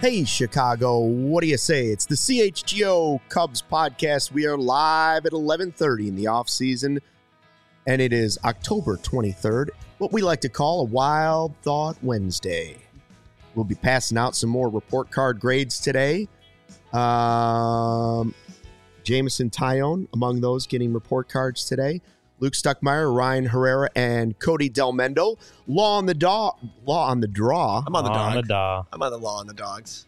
Hey, Chicago, what do you say? It's the CHGO Cubs podcast. We are live at 11:30 in the offseason, and it is October 23rd, what we like to call a Wild Thought Wednesday. We'll be passing out some more report card grades today. Jamison Tyone among those getting report cards today. Luke Stuckmeyer, Ryan Herrera, and Cody Delmendo. Law on the draw. I'm on the dog. I'm on the law on the dogs.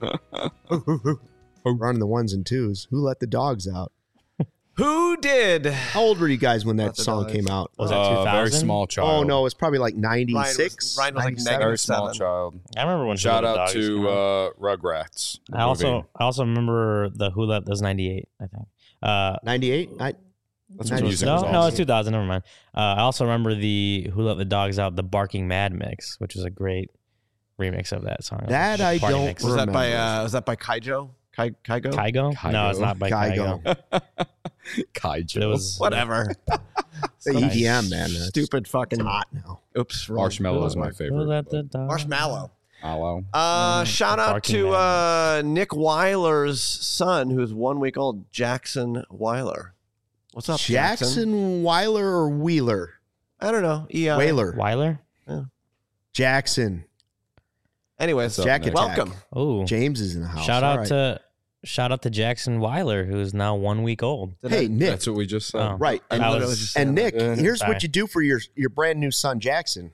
Running the ones and twos. Who let the dogs out? Who did? How old were you guys when that song came out? Was that 2000? Very small child. Oh, no, it's probably like 96. Ryan was like 97. Very small -7. child. I remember when Shout Who Let the out Dogs came to out. Rugrats. the I movie. also remember the Who Let. That was 98, I think. 98? That's when when music no, was no, awesome. it's 2000. Never mind. I also remember the Who Let the Dogs Out, the Barking Mad mix, which is a great remix of that song. That I Party don't mix. Was that by remember. Kaijo? Kaigo? Kygo? No, it's not by Kygo. Kaiju. But it was Whatever. The Nice. EDM, man. That's Stupid fucking. hot now. Oops. wrong. Marshmallow is my Who favorite. Let the Dogs Marshmallow. Mallow. Shout out Barking to Mad Nick Weiler's son, who's 1 week old, Jackson Weiler. What's up, Jackson? Jackson Weiler or Wheeler? I don't know. Whaler. Weiler? Jackson. Anyways, What's up, Jack Nick? Attack. welcome. Oh, James is in the house. shout All out right. to Jackson Weiler, who's now 1 week old. Hey, Nick. That's what we just said. Oh. Right. I And, That literally was- just and saying Nick, here's Sorry. what you do for your brand new son, Jackson.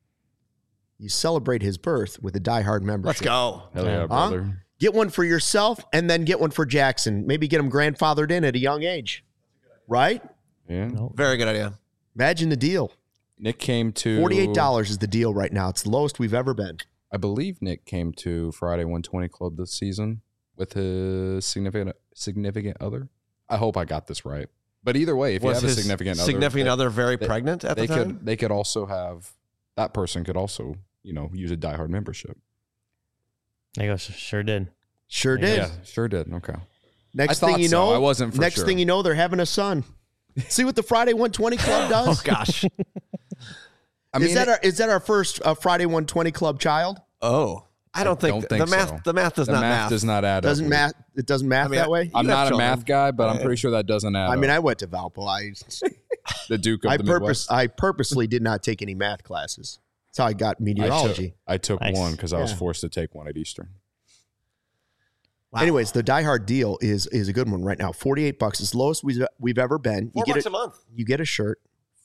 You celebrate his birth with a diehard that. membership. Let's go. Hell yeah, Huh? brother. Get one for yourself and then get one for Jackson. Maybe get him grandfathered in at a young age. Right? Yeah. Nope. Very good idea. Imagine the deal. Nick came to $48 is the deal right now. It's the lowest we've ever been. I believe Nick came to Friday 120 Club this season with his significant other. I hope I got this right. But either way, if you Was have a his significant other very they- pregnant at the time? they could also have that person could also use a diehard membership. There you go. Sure did. Sure Yeah. did. Yeah, sure did. Okay. Next I thing thought you so. know, I wasn't for next sure. thing you know, they're having a son. See what the Friday 120 Club Oh does? gosh. Is that our first Friday 120 Club child? Oh. I don't think don't think the math so. the math does the not math does not add Doesn't up. math? It doesn't math I mean, that way. I'm You have not a children. math guy, but I'm pretty sure that doesn't add I mean, up. I went to Valpo. The Duke of the Midwest. I purposely did not take any math classes. That's how I got meteorology. I took Nice. one because I was Yeah. forced to take one at Eastern. Wow. Anyways, the Die Hard deal is a good one right now. $48. It's the lowest we've ever been. $4 a month. You get a shirt.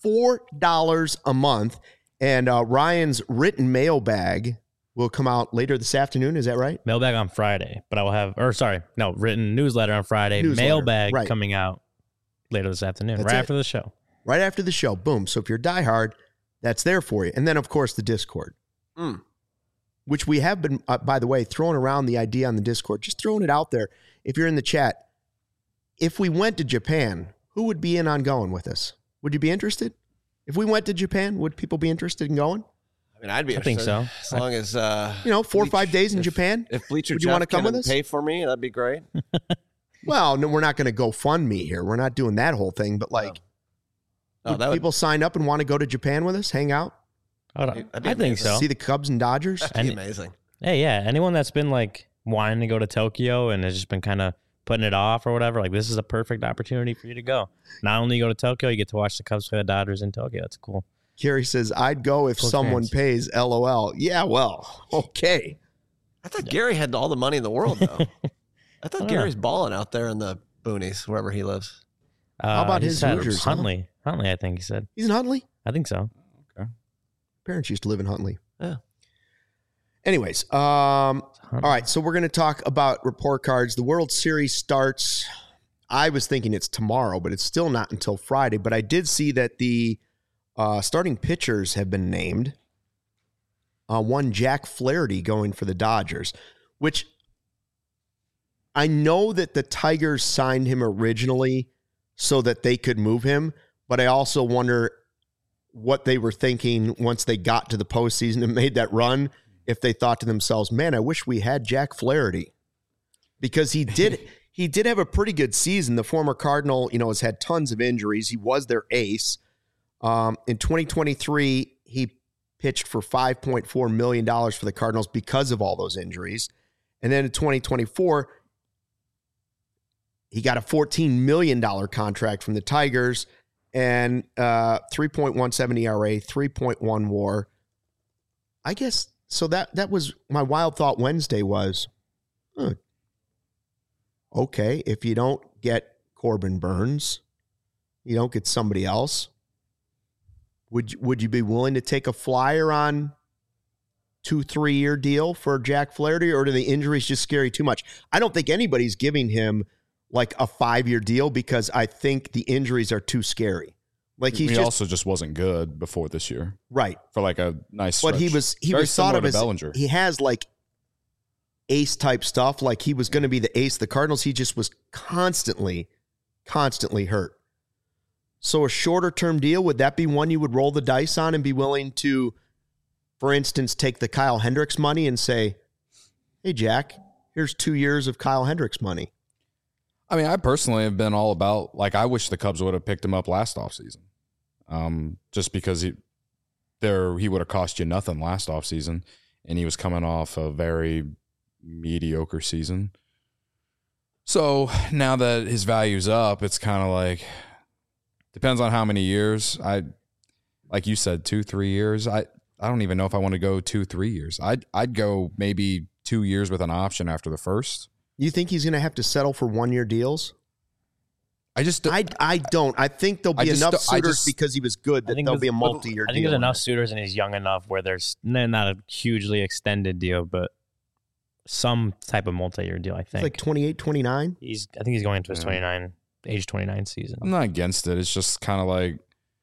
$4 a month. And Ryan's written mailbag will come out later this afternoon. Is that right? Mailbag on Friday, but I will have, written newsletter on Friday. Newsletter, Mailbag right. coming out later this afternoon, That's right it. after the show. Right after the show. Boom. So if you're Die Hard, that's there for you. And then, of course, the Discord. Which we have been, by the way, throwing around the idea on the Discord, just throwing it out there. If you're in the chat, if we went to Japan, who would be in on going with us? Would you be interested? If we went to Japan, would people be interested in going? I mean, I'd be I think interested. so. As long as 4 or 5 days in if- Japan? If Bleacher Would you wanna Jeff come with can us? pay for me, that'd be great. Well, no, we're not going to go fund me here. We're not doing that whole thing. But would that would people sign up and want to go to Japan with us, hang out, That'd be I think amazing. so. see the Cubs and Dodgers? be And- amazing. Hey, yeah. Anyone that's been like wanting to go to Tokyo and has just been kind of putting it off or whatever, like this is a perfect opportunity for you to go. Not only go to Tokyo, you get to watch the Cubs play the Dodgers in Tokyo. That's cool. Kerry says, I'd go if Cool someone experience. pays LOL. Yeah, well, okay. I thought Gary had all the money in the world, though. I thought don't Gary's balling out there in the boonies, wherever he lives. about he his said Hoosiers, huh? Huntley. Huntley, I think he said. He's in Huntley? I think so. Parents used to live in Huntley. Yeah. Anyways, all right, so we're going to talk about report cards. The World Series starts, I was thinking it's tomorrow, but it's still not until Friday. But I did see that the starting pitchers have been named. One, Jack Flaherty going for the Dodgers, which I know that the Tigers signed him originally so that they could move him, but I also wonder what they were thinking once they got to the postseason and made that run, if they thought to themselves, man, I wish we had Jack Flaherty. Because he did have a pretty good season. The former Cardinal, has had tons of injuries. He was their ace. In 2023, he pitched for $5.4 million for the Cardinals because of all those injuries. And then in 2024, he got a $14 million contract from the Tigers and 3.17 ERA, 3.1 WAR. I guess, so that was my wild thought Wednesday was, okay, if you don't get Corbin Burnes, you don't get somebody else, would you be willing to take a flyer on 2-3 year deal for Jack Flaherty, or do the injuries just scare you too much? I don't think anybody's giving him like a 5-year deal because I think the injuries are too scary. Like he also just wasn't good before this year, right? For like a nice stretch. But he was thought of as Bellinger. He has like ace type stuff. Like he was going to be the ace of the Cardinals. He just was constantly hurt. So a shorter term deal, would that be one you would roll the dice on and be willing to, for instance, take the Kyle Hendricks money and say, hey, Jack, here's 2 years of Kyle Hendricks money? I mean, I personally have been all about, like, I wish the Cubs would have picked him up last offseason. Just because he would have cost you nothing last offseason, and he was coming off a very mediocre season. So now that his value's up, it's kind of like, depends on how many years. Like you said, 2-3 years. I don't even know if I want to go 2-3 years. I'd go maybe 2 years with an option after the first. You think he's going to have to settle for 1-year deals? I don't. I think there'll be enough suitors because he was good that there'll be a multi-year deal. I think there's enough suitors and he's young enough where there's not a hugely extended deal, but some type of multi-year deal, I think. It's like 28, 29? I think he's going into his age 29 season. I'm not against it. It's just kind of like...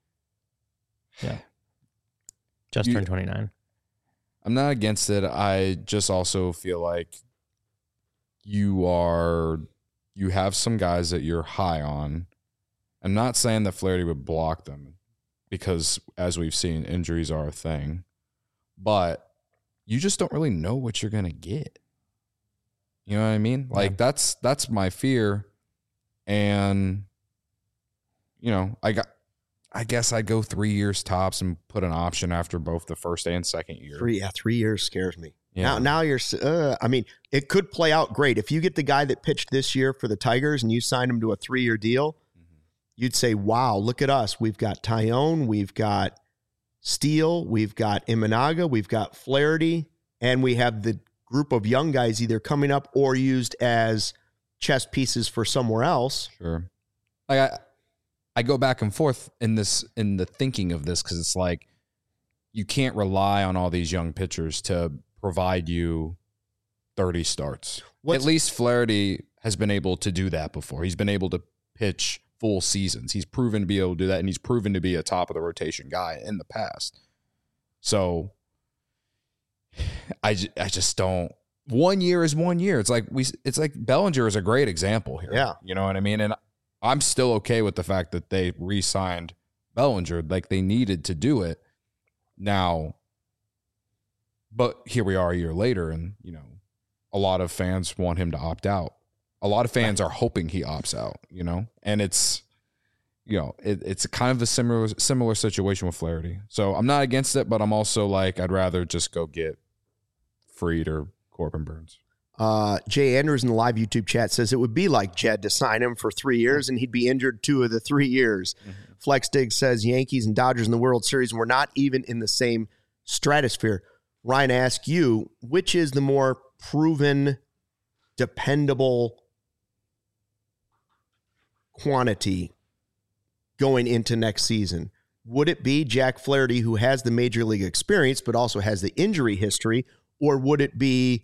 Yeah. Just turned 29. I'm not against it. I just also feel like you have some guys that you're high on. I'm not saying that Flaherty would block them because, as we've seen, injuries are a thing. But you just don't really know what you're going to get. You know what I mean? Like, that's my fear. And, I guess I'd go 3 years tops and put an option after both the first and second year. 3 years scares me. Yeah. Now you're, I mean, it could play out great. If you get the guy that pitched this year for the Tigers and you sign him to a 3-year deal, you'd say, wow, look at us. We've got Tyone, we've got Steele, we've got Imanaga, we've got Flaherty, and we have the group of young guys either coming up or used as chess pieces for somewhere else. Sure. Like I go back and forth in the thinking of this because it's like you can't rely on all these young pitchers to provide you 30 starts. At least Flaherty has been able to do that before. He's been able to pitch full seasons. He's proven to be able to do that, and he's proven to be a top of the rotation guy in the past. So I just don't. 1 year is 1 year. It's like Bellinger is a great example here. Yeah. You know what I mean? And I'm still okay with the fact that they re-signed Bellinger. Like, they needed to do it now. But here we are a year later, and, a lot of fans want him to opt out. A lot of fans are hoping he opts out, and it's, it's kind of a similar situation with Flaherty. So I'm not against it, but I'm also like, I'd rather just go get Fried or Corbin Burnes. Jay Andrews in the live YouTube chat says it would be like Jed to sign him for 3 years and he'd be injured 2 of the 3 years. Mm-hmm. Flex Dig says Yankees and Dodgers in the World Series, and we're not even in the same stratosphere. Ryan, I ask you, which is the more proven, dependable quantity going into next season? Would it be Jack Flaherty, who has the major league experience but also has the injury history, or would it be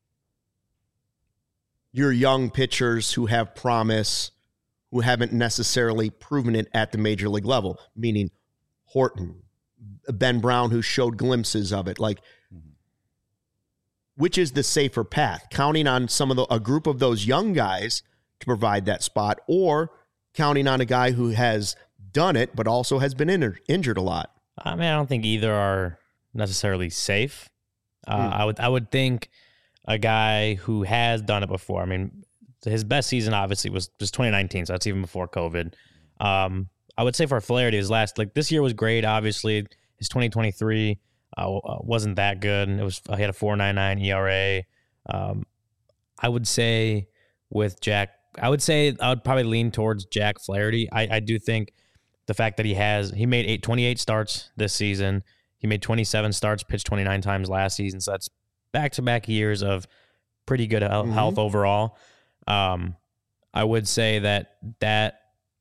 your young pitchers who have promise, who haven't necessarily proven it at the major league level, meaning Horton, Ben Brown, who showed glimpses of it? Like, which is the safer path? Counting on a group of those young guys to provide that spot, or counting on a guy who has done it but also has been injured a lot? I mean, I don't think either are necessarily safe. I would think a guy who has done it before. I mean, his best season obviously was 2019, so that's even before COVID. I would say for Flaherty, this year was great. Obviously, his 2023 wasn't that good. He had a 4.99 ERA. I would say with Jack, I would probably lean towards Jack Flaherty. I do think the fact that he made 28 starts this season. He made 27 starts, pitched 29 times last season. So that's back-to-back years of pretty good health overall. I would say that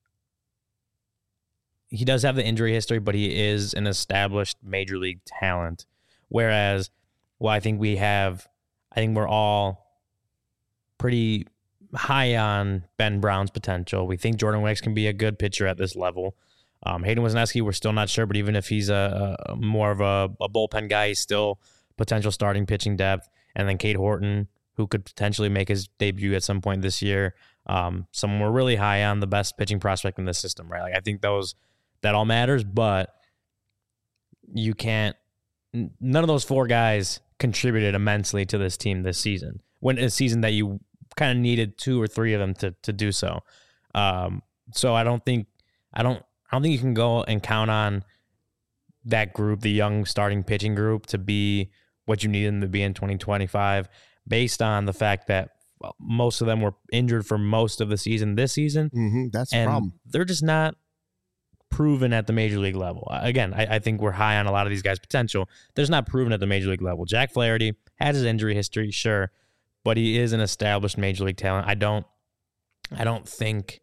he does have the injury history, but he is an established major league talent. Whereas, I think we're all pretty high on Ben Brown's potential. We think Jordan Wicks can be a good pitcher at this level. Hayden Wesneski, we're still not sure, but even if he's a more of a bullpen guy, he's still potential starting pitching depth. And then Cade Horton, who could potentially make his debut at some point this year. Someone we're really high on, the best pitching prospect in the system, right? Like I think that all matters, but you can't. None of those four guys contributed immensely to this team this season. When a season that you kind of needed two or three of them to do so. So I don't think you can go and count on that group, the young starting pitching group, to be what you need them to be in 2025, based on the fact that most of them were injured for most of the season this season. That's the problem. They're just not proven at the major league level. Again, I think we're high on a lot of these guys' potential. They're just not proven at the major league level. Jack Flaherty has his injury history, sure, but he is an established major league talent. I don't think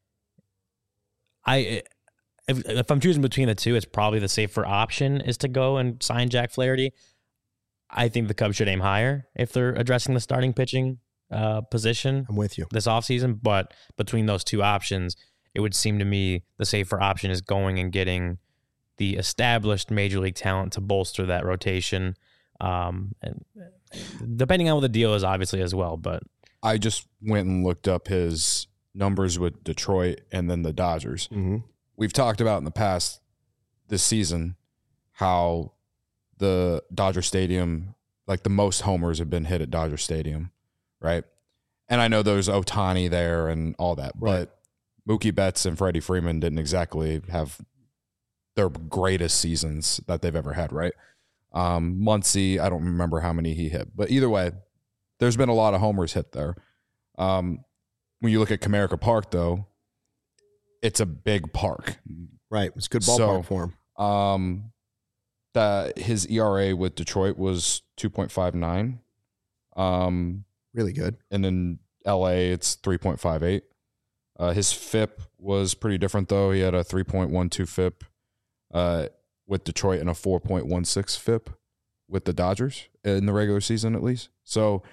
if I'm choosing between the two, it's probably the safer option is to go and sign Jack Flaherty. I think the Cubs should aim higher if they're addressing the starting pitching position. I'm with you. This offseason, but between those two options, it would seem to me the safer option is going and getting the established major league talent to bolster that rotation. And depending on what the deal is, obviously, as well. But I just went and looked up his numbers with Detroit and then the Dodgers. We've talked about in the past this season how the Dodger Stadium, like the most homers have been hit at Dodger Stadium, right? And I know there's Ohtani there and all that, Right. but Mookie Betts and Freddie Freeman didn't exactly have their greatest seasons that they've ever had, right? Muncy, I don't remember how many he hit, but either way, there's been a lot of homers hit there. When you look at Comerica Park, though, it's a big park. Right. It's a good ballpark for him. That his ERA with Detroit was 2.59. Really good. And in LA, it's 3.58. His FIP was pretty different, though. He had a 3.12 FIP with Detroit and a 4.16 FIP with the Dodgers in the regular season, at least. So,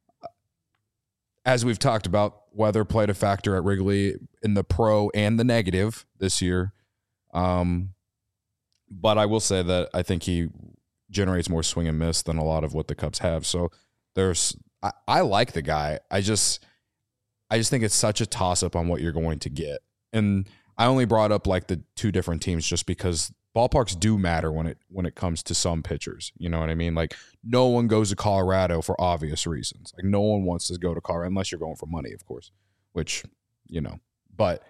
as we've talked about, weather played a factor at Wrigley in the pro and the negative this year. But I will say that I think he generates more swing and miss than a lot of what the Cubs have. So I like the guy. I just think it's such a toss-up on what you're going to get. And I only brought up like the two different teams just because ballparks do matter when it comes to some pitchers. You know what I mean? Like no one goes to Colorado for obvious reasons. Like no one wants to go to Colorado unless you're going for money, of course, which, but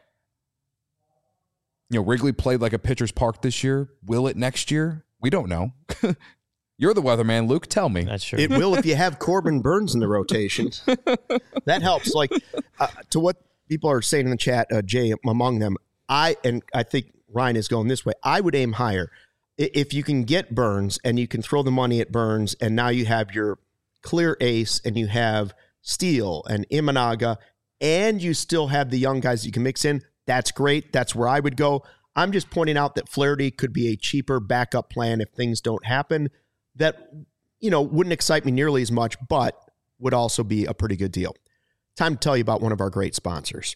Wrigley played like a pitcher's park this year. Will it next year? We don't know. You're the weatherman, Luke. Tell me. that's true. It will if you have Corbin Burns in the rotation. That helps. Like to what people are saying in the chat, Jay among them, I think Ryan is going this way. I would aim higher. If you can get Burns and you can throw the money at Burns, and now you have your clear ace and you have Steele and Imanaga, and you still have the young guys you can mix in, that's great. That's where I would go. I'm just pointing out that Flaherty could be a cheaper backup plan if things don't happen. That, wouldn't excite me nearly as much, but would also be a pretty good deal. Time to tell you about one of our great sponsors.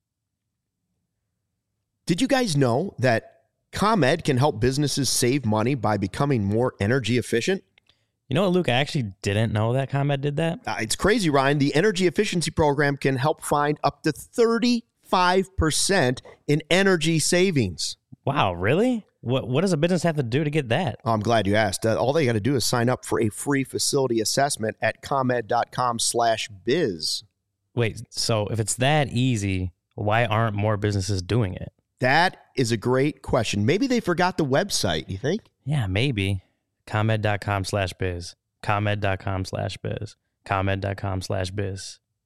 Did you guys know that ComEd can help businesses save money by becoming more energy efficient? You know what, Luke? I actually didn't know that ComEd did that. It's crazy, Ryan. The energy efficiency program can help find up to 35% in energy savings. Wow, really? What does a business have to do to get that? I'm glad you asked. All they got to do is sign up for a free facility assessment at comed.com/biz. Wait, so if it's that easy, why aren't more businesses doing it? That is a great question. Maybe they forgot the website, you think? Yeah, maybe. ComEd.com/biz. ComEd.com/biz. ComEd.com/biz.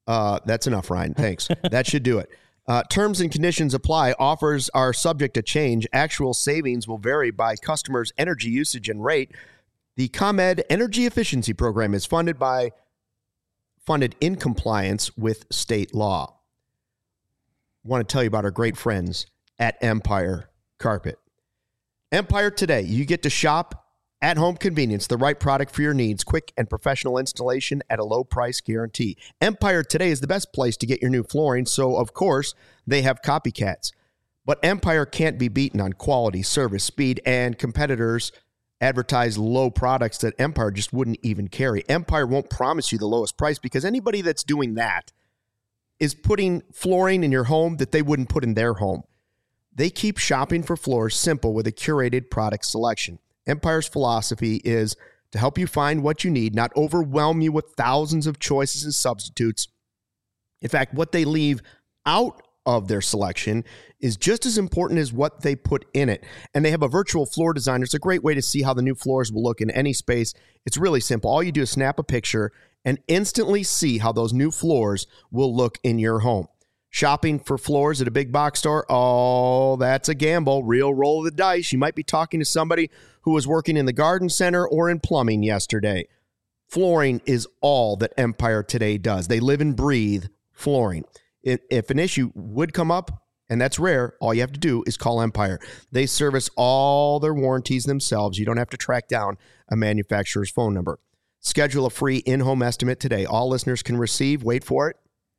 That's enough, Ryan. Thanks. That should do it. Terms and conditions apply. Offers are subject to change. Actual savings will vary by customer's energy usage and rate. The ComEd Energy Efficiency Program is funded in compliance with state law. I want to tell you about our great friends at Empire Carpet. Empire Today, you get to shop at home convenience, the right product for your needs, quick and professional installation at a low price guarantee. Empire Today is the best place to get your new flooring, so of course they have copycats. But Empire can't be beaten on quality, service, speed, and competitors advertise low products that Empire just wouldn't even carry. Empire won't promise you the lowest price because anybody that's doing that is putting flooring in your home that they wouldn't put in their home. They keep shopping for floors simple with a curated product selection. Empire's philosophy is to help you find what you need, not overwhelm you with thousands of choices and substitutes. In fact, what they leave out of their selection is just as important as what they put in it. And they have a virtual floor designer. It's a great way to see how the new floors will look in any space. It's really simple. All you do is snap a picture and instantly see how those new floors will look in your home. Shopping for floors at a big box store, oh, that's a gamble. Real roll of the dice. You might be talking to somebody who was working in the garden center or in plumbing yesterday. Flooring is all that Empire Today does. They live and breathe flooring. If an issue would come up, and that's rare, all you have to do is call Empire. They service all their warranties themselves. You don't have to track down a manufacturer's phone number. Schedule a free in-home estimate today. All listeners can receive, wait for it,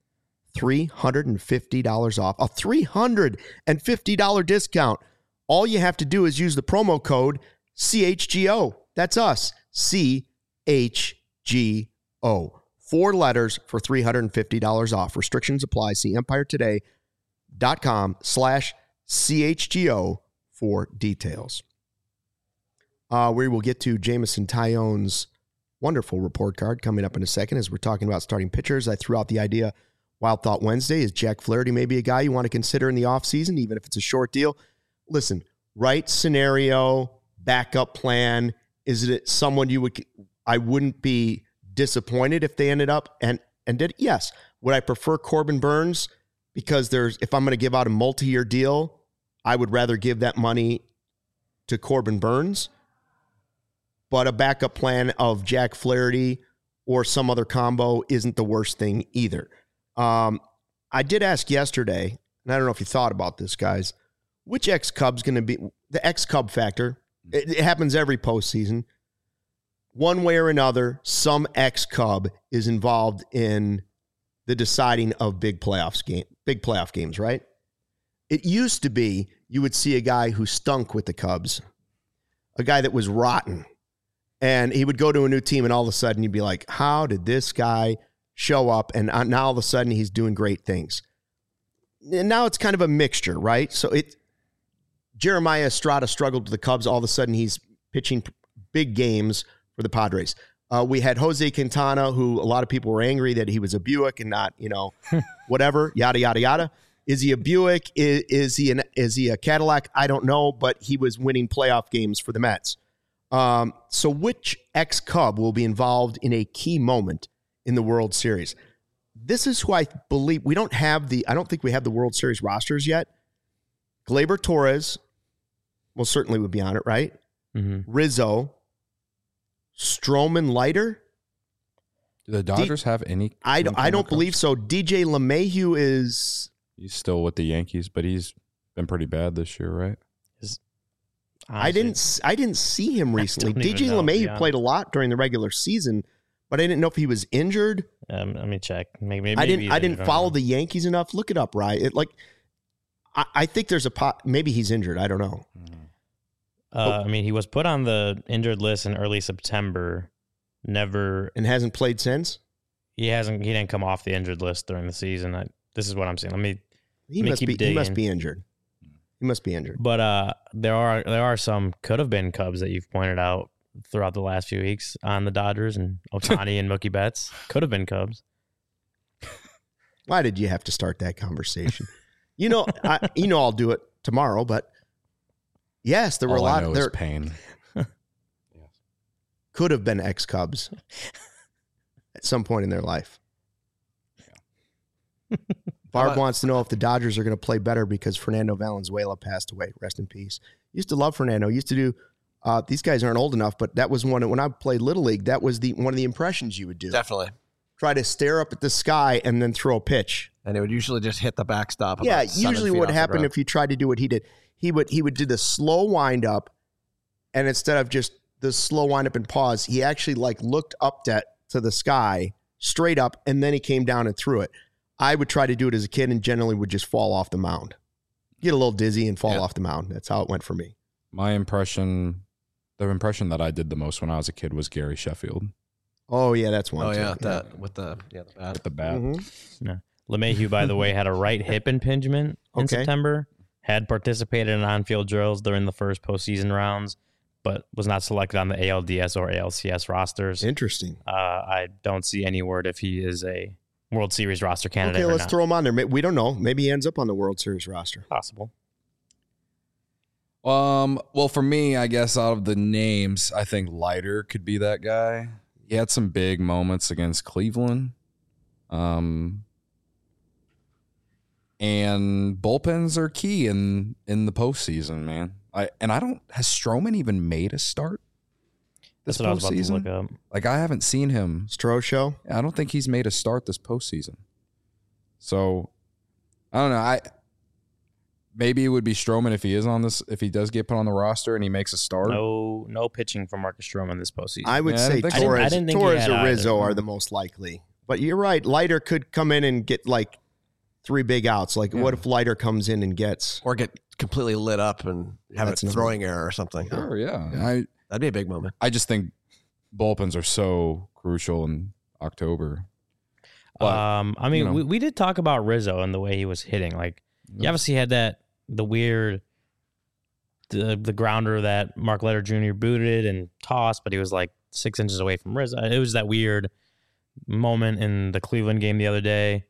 $350 off. A $350 discount. All you have to do is use the promo code CHGO. That's us. CHGO. 4 letters for $350 off. Restrictions apply. See empiretoday.com/CHGO for details. We will get to Jameson Taillon's wonderful report card coming up in a second as we're talking about starting pitchers. I threw out the idea Wild Thought Wednesday. Is Jack Flaherty maybe a guy you want to consider in the offseason, even if it's a short deal? Listen, right scenario, backup plan. Is it someone I wouldn't be disappointed if they ended up and did? Yes. Would I prefer Corbin Burns? Because if I'm going to give out a multi-year deal, I would rather give that money to Corbin Burns. But a backup plan of Jack Flaherty or some other combo isn't the worst thing either. I did ask yesterday, and I don't know if you thought about this, guys, which ex-Cub's going to be the ex-Cub factor. It happens every postseason. One way or another, some ex-Cub is involved in the deciding of big playoff games, right? It used to be you would see a guy who stunk with the Cubs, a guy that was rotten, and he would go to a new team, and all of a sudden you'd be like, how did this guy show up? And now all of a sudden he's doing great things. And now it's kind of a mixture, right? So Jeremiah Estrada struggled with the Cubs. All of a sudden he's pitching big games for the Padres. We had Jose Quintana, who a lot of people were angry that he was a Buick and not, whatever, yada, yada, yada. Is he a Buick? Is he a Cadillac? I don't know, but he was winning playoff games for the Mets. So which ex-Cub will be involved in a key moment in the World Series? This is who I believe I don't think we have the World Series rosters yet. Gleyber Torres certainly would be on it, right? Mm-hmm. Rizzo, Stroman, Leiter. Do the Dodgers have any? I don't believe so. DJ LeMahieu he's still with the Yankees, but he's been pretty bad this year, right? I didn't see him recently. DJ LeMahieu played a lot during the regular season, but I didn't know if he was injured. Let me check. Maybe I didn't follow the Yankees enough. Look it up, Ryan. I think there's maybe he's injured. I don't know. He was put on the injured list in early September. Never, and hasn't played since. He hasn't. He didn't come off the injured list during the season. This is what I'm saying. He must be injured. He must be injured. But there are some could have been Cubs that you've pointed out throughout the last few weeks on the Dodgers, and Ohtani and Mookie Betts could have been Cubs. Why did you have to start that conversation? I'll do it tomorrow, but yes, there were a lot of there. Pain. Could have been ex-Cubs at some point in their life. Barb wants to know if the Dodgers are going to play better because Fernando Valenzuela passed away. Rest in peace. Used to love Fernando. Used to do. These guys aren't old enough, but that was when I played Little League. That was one of the impressions you would do. Definitely. Try to stare up at the sky and then throw a pitch. And it would usually just hit the backstop. Yeah, usually what happened if you tried to do what he did, he would do the slow wind up, and instead of just the slow wind up and pause, he actually looked up to the sky straight up, and then he came down and threw it. I would try to do it as a kid and generally would just fall off the mound. Get a little dizzy and fall off the mound. That's how it went for me. My impression, the impression that I did the most when I was a kid was Gary Sheffield. Oh, yeah, that's one. Oh, too. yeah, that with the bat. With the bat. Mm-hmm. Yeah. LeMahieu, by the way, had a right hip impingement in September, had participated in on-field drills during the first postseason rounds, but was not selected on the ALDS or ALCS rosters. Interesting. I don't see any word if he is a World Series roster candidate. Okay, let's throw him on there. We don't know. Maybe he ends up on the World Series roster. Possible. Well, for me, I guess out of the names, I think Leiter could be that guy. He had some big moments against Cleveland. And bullpens are key in the postseason, man. Has Stroman even made a start this That's what I was about to postseason? look up. I haven't seen him. Stro show? I don't think he's made a start this postseason. So, I don't know. Maybe it would be Stroman if he does get put on the roster and he makes a start. No pitching for Marcus Stroman this postseason. I would say I Torres, didn't think he had or Rizzo either. are the most likely. But you're right. Leiter could come in and get 3 big outs. What if Leiter comes in and gets... Or get completely lit up and have a throwing error or something. Sure, yeah. That'd be a big moment. I just think bullpens are so crucial in October. But, we did talk about Rizzo and the way he was hitting. You obviously had the weird, the grounder that Mark Leiter Jr. booted and tossed, but he was 6 inches away from Rizzo. It was that weird moment in the Cleveland game the other day.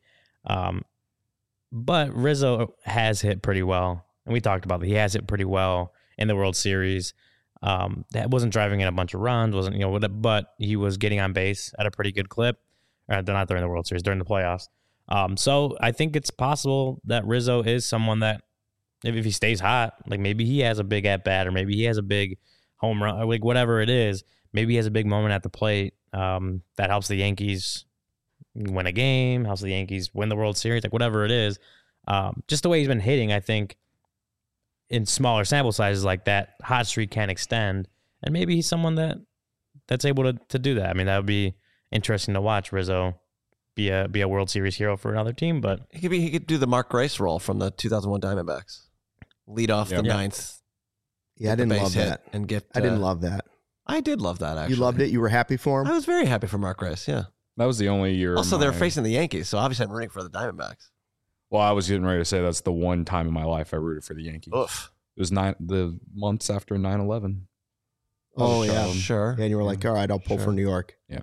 But Rizzo has hit pretty well, and we talked about that. He has hit pretty well in the World Series. That wasn't driving in a bunch of runs, but he was getting on base at a pretty good clip. Not during the World Series, during the playoffs. So I think it's possible that Rizzo is someone that, if he stays hot, maybe he has a big at bat, or maybe he has a big home run, or whatever it is. Maybe he has a big moment at the plate that helps the Yankees win a game, helps the Yankees win the World Series, whatever it is. Just the way he's been hitting, I think, in smaller sample sizes like that, hot streak can extend, and maybe he's someone that's able to do that. I mean, that would be interesting to watch Rizzo be a World Series hero for another team, but he could do the Mark Grace role from the 2001 Diamondbacks, lead off the ninth. Yeah, I didn't love that. And get. I didn't love that. I did love that. Actually, you loved it. You were happy for him. I was very happy for Mark Grace. Yeah, that was the only year. Also, they're facing the Yankees, so obviously I'm rooting for the Diamondbacks. Well, I was getting ready to say that's the one time in my life I rooted for the Yankees. Oof. It was the months after 9/11. Oh, yeah. Sure. And you were all right, I'll pull for New York. Yeah.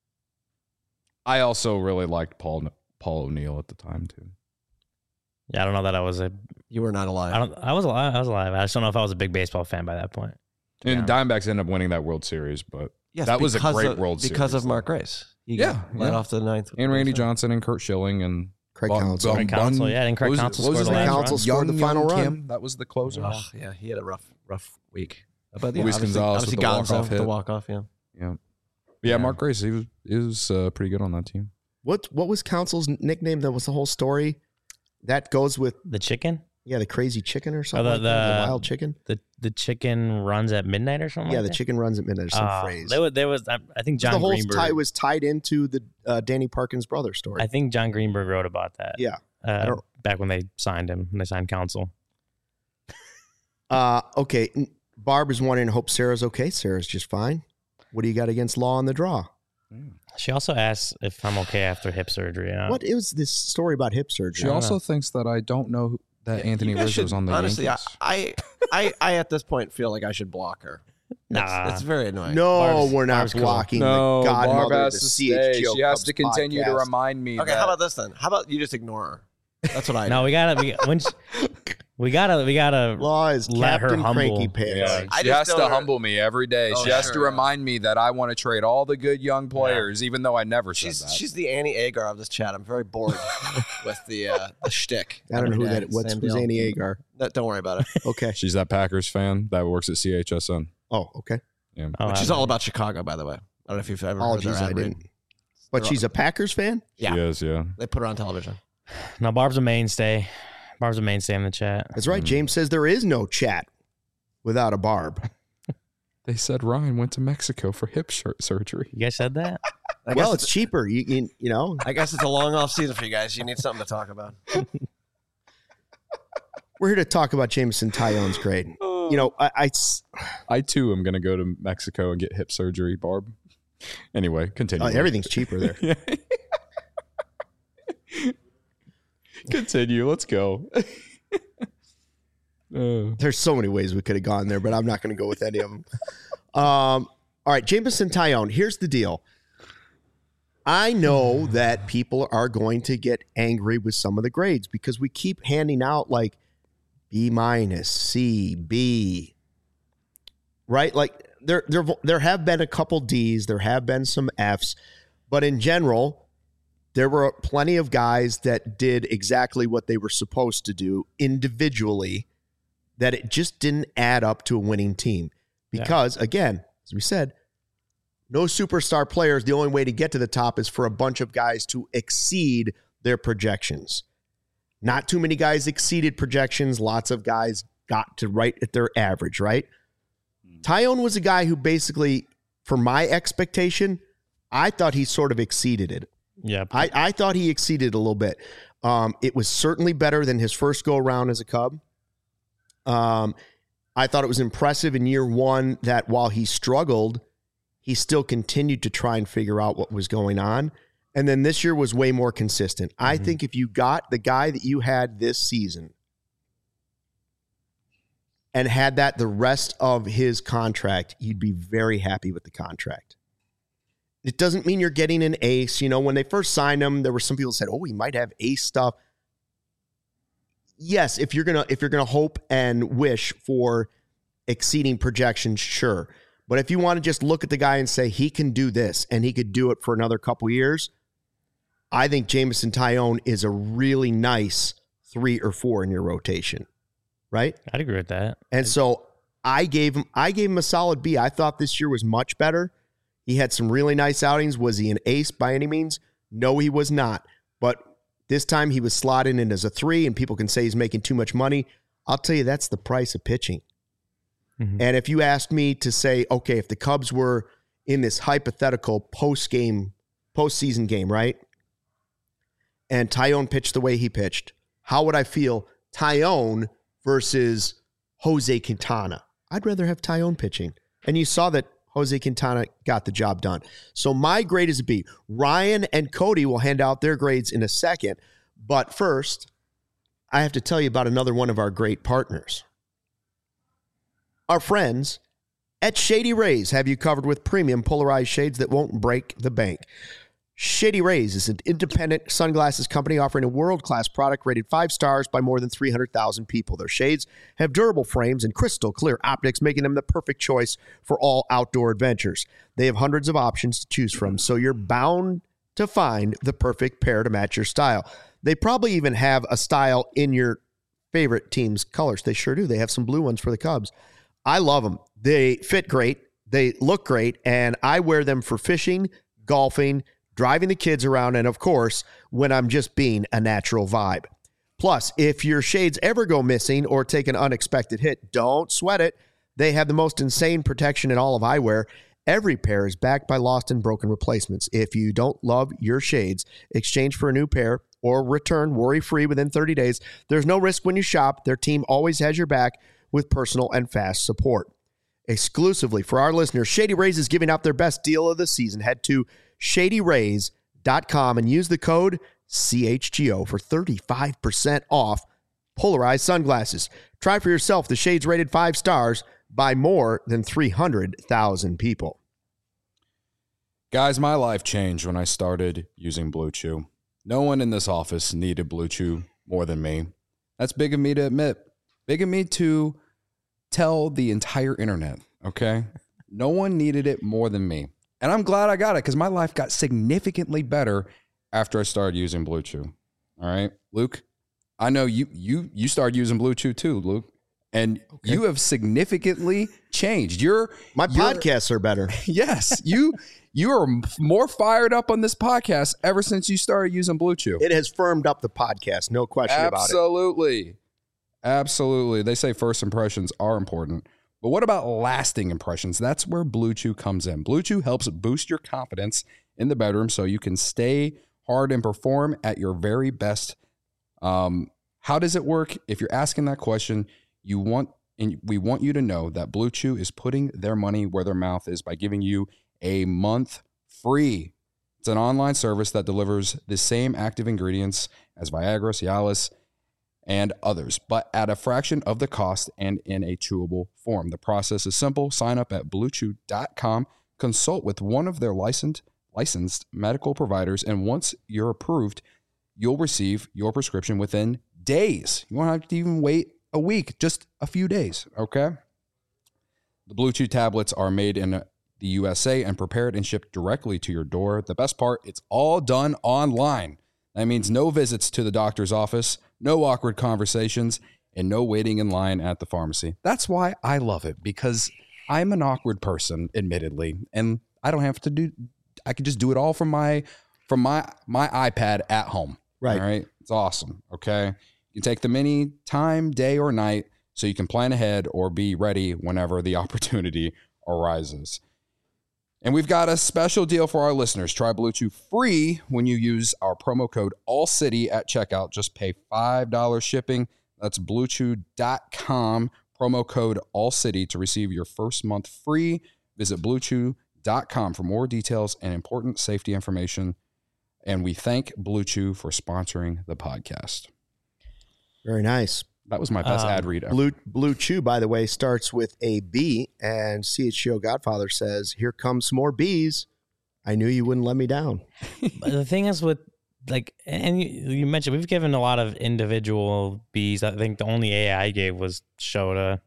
I also really liked Paul O'Neill at the time, too. Yeah, I don't know that I was You were not alive. I was alive. I just don't know if I was a big baseball fan by that point. And Diamondbacks ended up winning that World Series, but that was a great World Series. Because of Mark Grace. He got led off to the ninth. And Randy Johnson and Kurt Schilling and Craig Counsell. Craig Counsell, and Craig Counsell scored the last run. Counsell scored the final run. That was the closer. Oh, yeah, he had a rough week. But Luis Gonzalez with the walk-off hit. The walk-off, Yeah, Mark Grace, he was pretty good on that team. What was Counsell's nickname? That was the whole story. That goes with the chicken. Yeah, the crazy chicken or something. The wild chicken. The chicken runs at midnight or something. Yeah, like the that? chicken runs at midnight. Or some phrase. There was. I think John Greenberg. The whole tie was tied into the Danny Parkins brother story. I think John Greenberg wrote about that. Yeah, back when they signed him, when they signed Counsell. Okay. Barb is wondering. Hope Sarah's okay. Sarah's just fine. What do you got against Law on the draw? She also asks if I'm okay after hip surgery. What is this story about hip surgery? She also thinks that I don't know that Anthony Rizzo's on the honestly, Yankees. I at this point feel like I should block her. Nah. It's very annoying. No, we're not blocking the godmother of the CHGO. She has to continue to remind me. Okay, how about this then? How about you just ignore her? That's what I do. No, we gotta Law is let her Captain humble. Cranky Pants. Yeah, she has to humble me every day. Oh, she has to remind me that I want to trade all the good young players, even though I never said that. She's the Annie Agar of this chat. I'm very bored with the shtick. I don't know every who day. that. Who's Same deal. Annie Agar? No, don't worry about it. Okay. She's that Packers fan that works at CHSN. Oh, okay. Yeah. Oh, Which is all about Chicago, by the way. I don't know if you've ever heard their Apologies, I ad read. didn't. But she's a Packers fan? Yeah. She is, yeah. They put her on television. No, Barb's a mainstay. Barb's a mainstay in the chat. That's right. James says there is no chat without a Barb. They said Ryan went to Mexico for hip surgery. You guys said that? Well, it's cheaper. You know. I guess it's a long off season for you guys. You need something to talk about. We're here to talk about Jameson Tyone's grade. You know, I too am going to go to Mexico and get hip surgery, Barb. Anyway, continue. Everything's cheaper there. Continue. Let's go. There's so many ways we could have gone there, but I'm not going to go with any of them. All right, Jameson Tyone. Here's the deal. I know that people are going to get angry with some of the grades because we keep handing out like B minus, C, B, right? Like there have been a couple D's, there have been some F's, but in general, there were plenty of guys that did exactly what they were supposed to do individually, that it just didn't add up to a winning team. Because, again, as we said, no superstar players. The only way to get to the top is for a bunch of guys to exceed their projections. Not too many guys exceeded projections. Lots of guys got to right at their average, right? Tyone was a guy who basically, for my expectation, I thought he sort of exceeded it. Yeah. I thought he exceeded a little bit. It was certainly better than his first go-around as a Cub. I thought it was impressive in year one that while he struggled, he still continued to try and figure out what was going on. And then this year was way more consistent. I think if you got the guy that you had this season and had that the rest of his contract, you'd be very happy with the contract. It doesn't mean you're getting an ace. You know, when they first signed him, there were some people who said, oh, he might have ace stuff. Yes, if you're gonna hope and wish for exceeding projections, sure. But if you want to just look at the guy and say he can do this and he could do it for another couple years, I think Jameson Tyone is a really nice 3 or 4 in your rotation, right? I'd agree with that. And so I gave him a solid B. I thought this year was much better. He had some really nice outings. Was he an ace by any means? No, he was not. But this time he was slotted in as a 3, and people can say he's making too much money. I'll tell you, that's the price of pitching. Mm-hmm. And if you asked me to say, okay, if the Cubs were in this hypothetical postseason game, right? And Tyone pitched the way he pitched, how would I feel? Tyone versus Jose Quintana. I'd rather have Tyone pitching. And you saw that Jose Quintana got the job done. So my grade is a B. Ryan and Cody will hand out their grades in a second. But first, I have to tell you about another one of our great partners. Our friends at Shady Rays have you covered with premium polarized shades that won't break the bank. Shady Rays is an independent sunglasses company offering a world-class product rated 5 stars by more than 300,000 people. Their shades have durable frames and crystal clear optics, making them the perfect choice for all outdoor adventures. They have hundreds of options to choose from, so you're bound to find the perfect pair to match your style. They probably even have a style in your favorite team's colors. They sure do. They have some blue ones for the Cubs. I love them. They fit great. They look great, and I wear them for fishing, golfing, driving the kids around, and of course, when I'm just being a natural vibe. Plus, if your shades ever go missing or take an unexpected hit, don't sweat it. They have the most insane protection in all of eyewear. Every pair is backed by lost and broken replacements. If you don't love your shades, exchange for a new pair or return worry-free within 30 days. There's no risk when you shop. Their team always has your back with personal and fast support. Exclusively for our listeners, Shady Rays is giving out their best deal of the season. Head to ShadyRays.com and use the code CHGO for 35% off polarized sunglasses. Try for yourself the shades rated 5 stars by more than 300,000 people. Guys, my life changed when I started using Blue Chew. No one in this office needed Blue Chew more than me. That's big of me to admit. Big of me to tell the entire internet, okay? No one needed it more than me. And I'm glad I got it because my life got significantly better after I started using Blue Chew. All right, Luke. I know you started using Blue Chew too, Luke, and you have significantly changed. My podcasts are better. Yes, you are more fired up on this podcast ever since you started using Blue Chew. It has firmed up the podcast, no question about it. Absolutely. They say first impressions are important. But what about lasting impressions? That's where Blue Chew comes in. Blue Chew helps boost your confidence in the bedroom so you can stay hard and perform at your very best. How does it work? If you're asking that question, we want you to know that Blue Chew is putting their money where their mouth is by giving you a month free. It's an online service that delivers the same active ingredients as Viagra, Cialis, and others, but at a fraction of the cost and in a chewable form. The process is simple. Sign up at BlueChew.com, consult with one of their licensed medical providers, and once you're approved, you'll receive your prescription within days. You won't have to even wait a week, just a few days, okay? The Blue Chew tablets are made in the USA and prepared and shipped directly to your door. The best part, it's all done online. That means no visits to the doctor's office, no awkward conversations, and no waiting in line at the pharmacy. That's why I love it, because I'm an awkward person, admittedly, and I don't have to I can just do it all from my iPad at home. Right. All right. It's awesome. Okay. You can take them any time, day or night, so you can plan ahead or be ready whenever the opportunity arises. And we've got a special deal for our listeners. Try Blue Chew free when you use our promo code ALLCITY at checkout. Just pay $5 shipping. That's BlueChew.com, promo code ALLCITY to receive your first month free. Visit BlueChew.com for more details and important safety information. And we thank Blue Chew for sponsoring the podcast. Very nice. That was my best ad read ever. Blue Chew, by the way, starts with a B, and CHGO Godfather says, "Here comes some more bees. I knew you wouldn't let me down." But the thing is with, like, and you mentioned, we've given a lot of individual Bs. I think the only A I gave was Shota.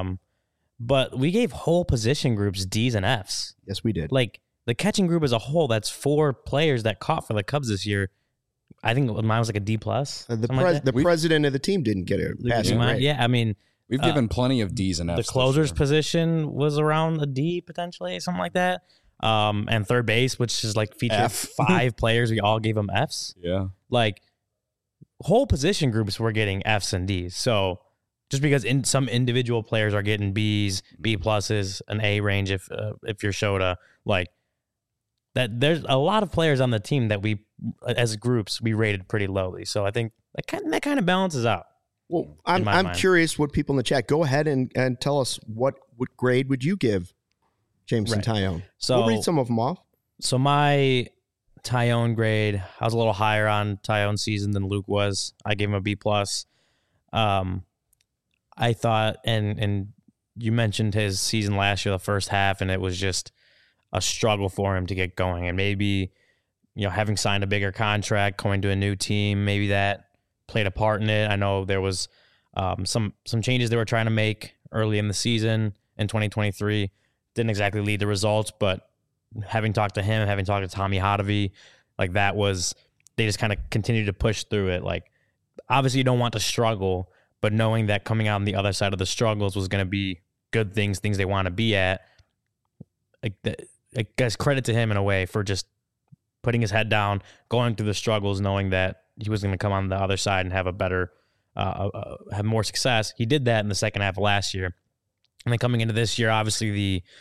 But we gave whole position groups Ds and Fs. Yes, we did. Like, the catching group as a whole, that's 4 players that caught for the Cubs this year. I think mine was like a D+. The president of the team didn't get a passing grade. Yeah, I mean, we've given plenty of Ds and Fs. The closer's position was around a D potentially, something like that. And third base, which is like featured 5 players, we all gave them Fs. Yeah, like whole position groups were getting Fs and Ds. So just because some individual players are getting Bs, B+, an A range if you're Shota, like that, there's a lot of players on the team that we, as groups, we rated pretty lowly. So I think that kind of balances out. Well, I'm curious what people in the chat, go ahead and tell us what grade would you give Jameson Taillon? So we'll read some of them off. So my Taillon grade, I was a little higher on Taillon's season than Luke was. I gave him a B+. I thought, and you mentioned his season last year, the first half, and it was just a struggle for him to get going. And maybe, having signed a bigger contract, going to a new team, maybe that played a part in it. I know there was some changes they were trying to make early in the season in 2023. Didn't exactly lead to results, but having talked to him, having talked to Tommy Hotovy, like that was, they just kind of continued to push through it. Like, obviously you don't want to struggle, but knowing that coming out on the other side of the struggles was going to be good things they want to be at, I guess credit to him in a way for just putting his head down, going through the struggles, knowing that he was going to come on the other side and have a better, have more success. He did that in the second half of last year. And then coming into this year, obviously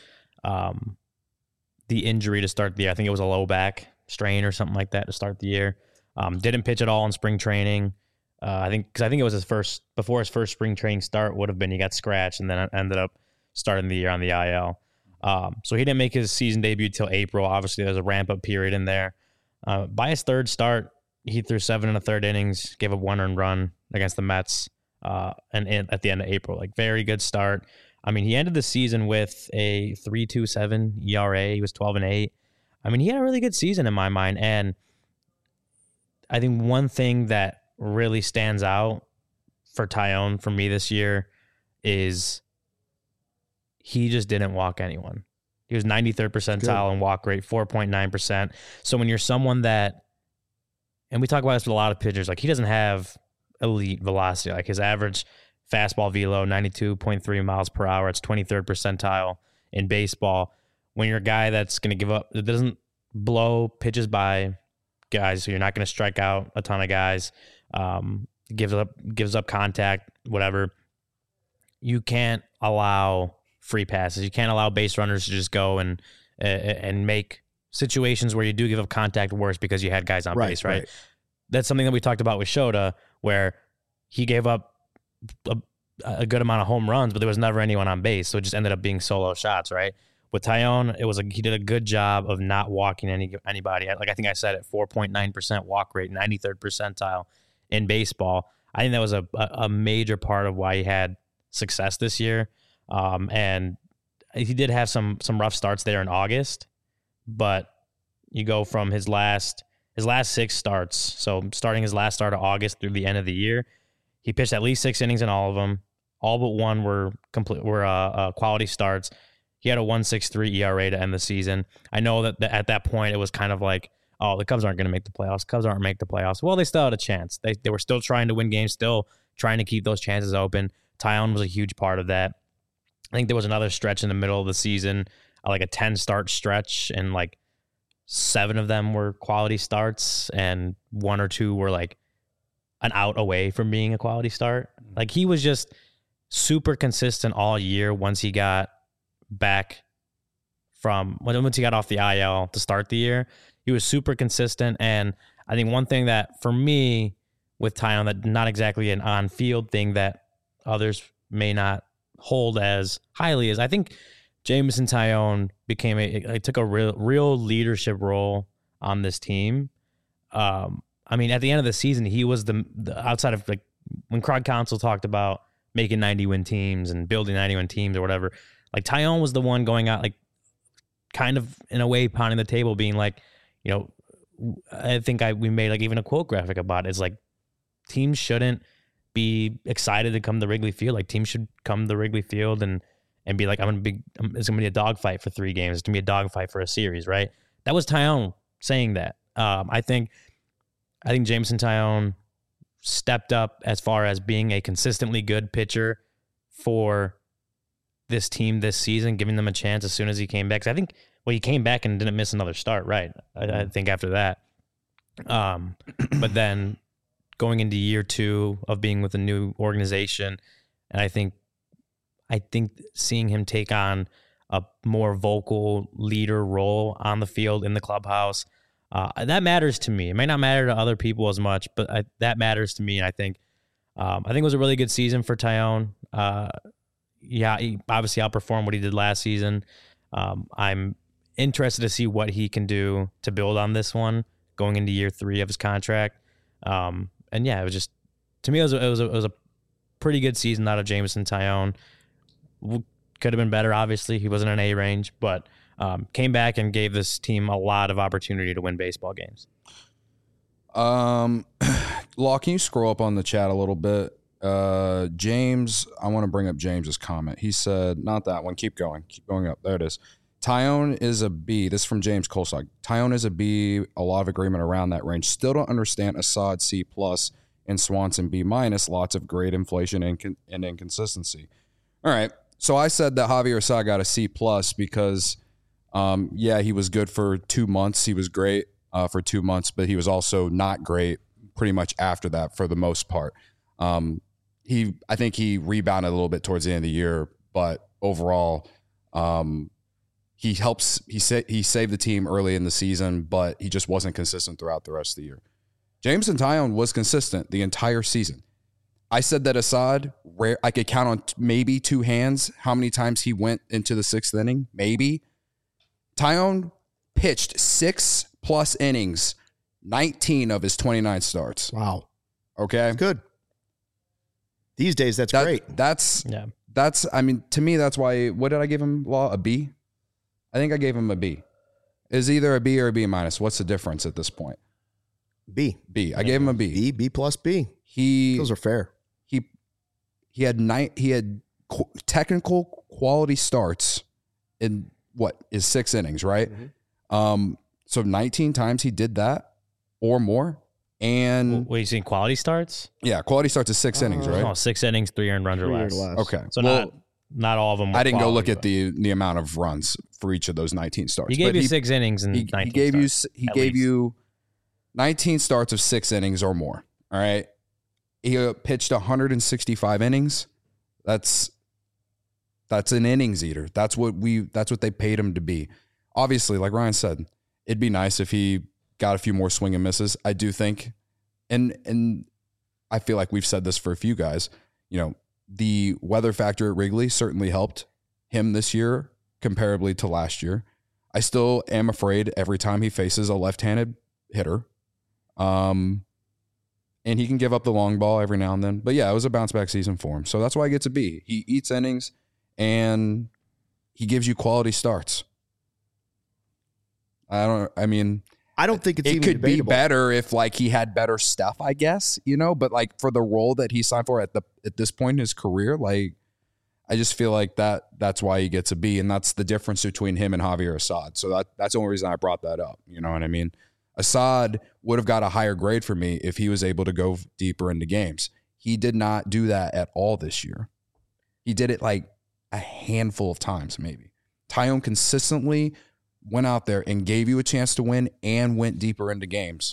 the injury to start the year, I think it was a low back strain or something like that to start the year. Didn't pitch at all in spring training. I think it was before his first spring training start would have been, he got scratched and then ended up starting the year on the IL. So he didn't make his season debut till April. Obviously, there's a ramp-up period in there. By his third start, he threw 7 1/3 innings, gave up 1 earned run against the Mets, and at the end of April. Like, very good start. I mean, he ended the season with a 3.27 ERA. He was 12-8. I mean, he had a really good season in my mind. And I think one thing that really stands out for Taillon for me this year is he just didn't walk anyone. He was 93rd percentile in walk rate, 4.9%. So when you're someone that and we talk about this with a lot of pitchers, like he doesn't have elite velocity. Like his average fastball velo, 92.3 miles per hour. It's 23rd percentile in baseball. When you're a guy that's going to give up, it doesn't blow pitches by guys, so you're not going to strike out a ton of guys. Gives up contact, whatever. You can't allow free passes. You can't allow base runners to just go and make situations where you do give up contact worse because you had guys on base, right? That's something that we talked about with Shota, where he gave up a good amount of home runs, but there was never anyone on base, so it just ended up being solo shots, right? With Taillon, he did a good job of not walking anybody. Like I think I said it, 4.9% walk rate, 93rd percentile in baseball. I think that was a major part of why he had success this year. And he did have some rough starts there in August, but you go from his last 6 starts. So starting his last start of August through the end of the year, he pitched at least 6 innings in all of them. All but one were quality starts. He had a 1.63 ERA to end the season. I know that at that point it was kind of like, oh, the Cubs aren't going to make the playoffs. Cubs aren't make the playoffs. Well, they still had a chance. They were still trying to win games, still trying to keep those chances open. Taillon was a huge part of that. I think there was another stretch in the middle of the season, like a 10-start stretch, and like 7 of them were quality starts, and 1 or 2 were like an out away from being a quality start. Like he was just super consistent all year once he got back once he got off the IL to start the year. He was super consistent, and I think one thing that for me with Taillon, that not exactly an on-field thing that others may not hold as highly, is I think Jameson Taillon took a real leadership role on this team. I mean, at the end of the season, he was the outside of like when Craig Counsell talked about making 90-win teams and building 90-win teams or whatever. Like Taillon was the one going out, like kind of in a way pounding the table, being like, you know, I think we made like even a quote graphic about it. It's like teams shouldn't be excited to come to Wrigley Field. Like teams should come to Wrigley Field and be like, it's going to be a dogfight for 3 games. It's going to be a dogfight for a series, right? That was Taillon saying that. I think Jameson Taillon stepped up as far as being a consistently good pitcher for this team this season, giving them a chance as soon as he came back. 'Cause I think, he came back and didn't miss another start, right? I think after that. But then going into year 2 of being with a new organization, and I think seeing him take on a more vocal leader role on the field in the clubhouse, that matters to me. It might not matter to other people as much, but that matters to me. And I think it was a really good season for Taillon. Yeah, he obviously outperformed what he did last season. I'm interested to see what he can do to build on this one going into year 3 of his contract. And yeah, it was just, to me, it was a pretty good season out of Jameson Taillon. Could have been better, obviously. He wasn't an A range, but came back and gave this team a lot of opportunity to win baseball games. Law, can you scroll up on the chat a little bit? James, I want to bring up James's comment. He said, not that one. Keep going up. There it is. Taillon is a B. This is from James Kolsog. Taillon is a B. A lot of agreement around that range. Still don't understand Assad C+, and Swanson B-. Lots of grade inflation and inconsistency. All right. So I said that Javier Assad got a C+ because, he was good for 2 months. He was great for 2 months, but he was also not great pretty much after that for the most part. I think he rebounded a little bit towards the end of the year, but overall, he saved the team early in the season, but he just wasn't consistent throughout the rest of the year. Jameson Taillon was consistent the entire season. I said that Assad, I could count on maybe 2 hands how many times he went into the 6th inning, maybe. Taillon pitched 6+ innings, 19 of his 29 starts. Wow. Okay. That's good. These days, that's great. I mean, to me, that's why, what did I give him, Law? A B? I think I gave him a B. Is either a B or a B-. What's the difference at this point? B. I gave him a B. B plus B. Those are fair. He had technical quality starts in is 6 innings, right? Mm-hmm. So 19 times he did that or more. And What, you seen quality starts? yeah, quality starts at 6 innings, right? Oh, 6 innings, 3 earned runs or 3 or less. less. Okay. So well, not all of them. Were I didn't go look quality, at the amount of runs for each of those 19 starts. He gave But you 6 innings and 19 he gave starts, you at gave least. you 19 starts of 6 innings or more. All right. He pitched 165 innings. That's an innings eater. That's what they paid him to be. Obviously, like Ryan said, it'd be nice if he got a few more swing and misses. I do think, and I feel like we've said this for a few guys, the weather factor at Wrigley certainly helped him this year comparably to last year. I still am afraid every time he faces a left-handed hitter. And he can give up the long ball every now and then. But yeah, it was a bounce back season for him. So that's why he gets a B. He eats innings and he gives you quality starts. I don't think it's it even could debatable. be better if like he had better stuff, I guess, but like for the role that he signed for at this point in his career, like I just feel like that's why he gets a B, and that's the difference between him and Javier Assad. So that's the only reason I brought that up. You know what I mean? Assad would have got a higher grade for me if he was able to go deeper into games. He did not do that at all this year. He did it like a handful of times, maybe. Taillon consistently went out there and gave you a chance to win and went deeper into games.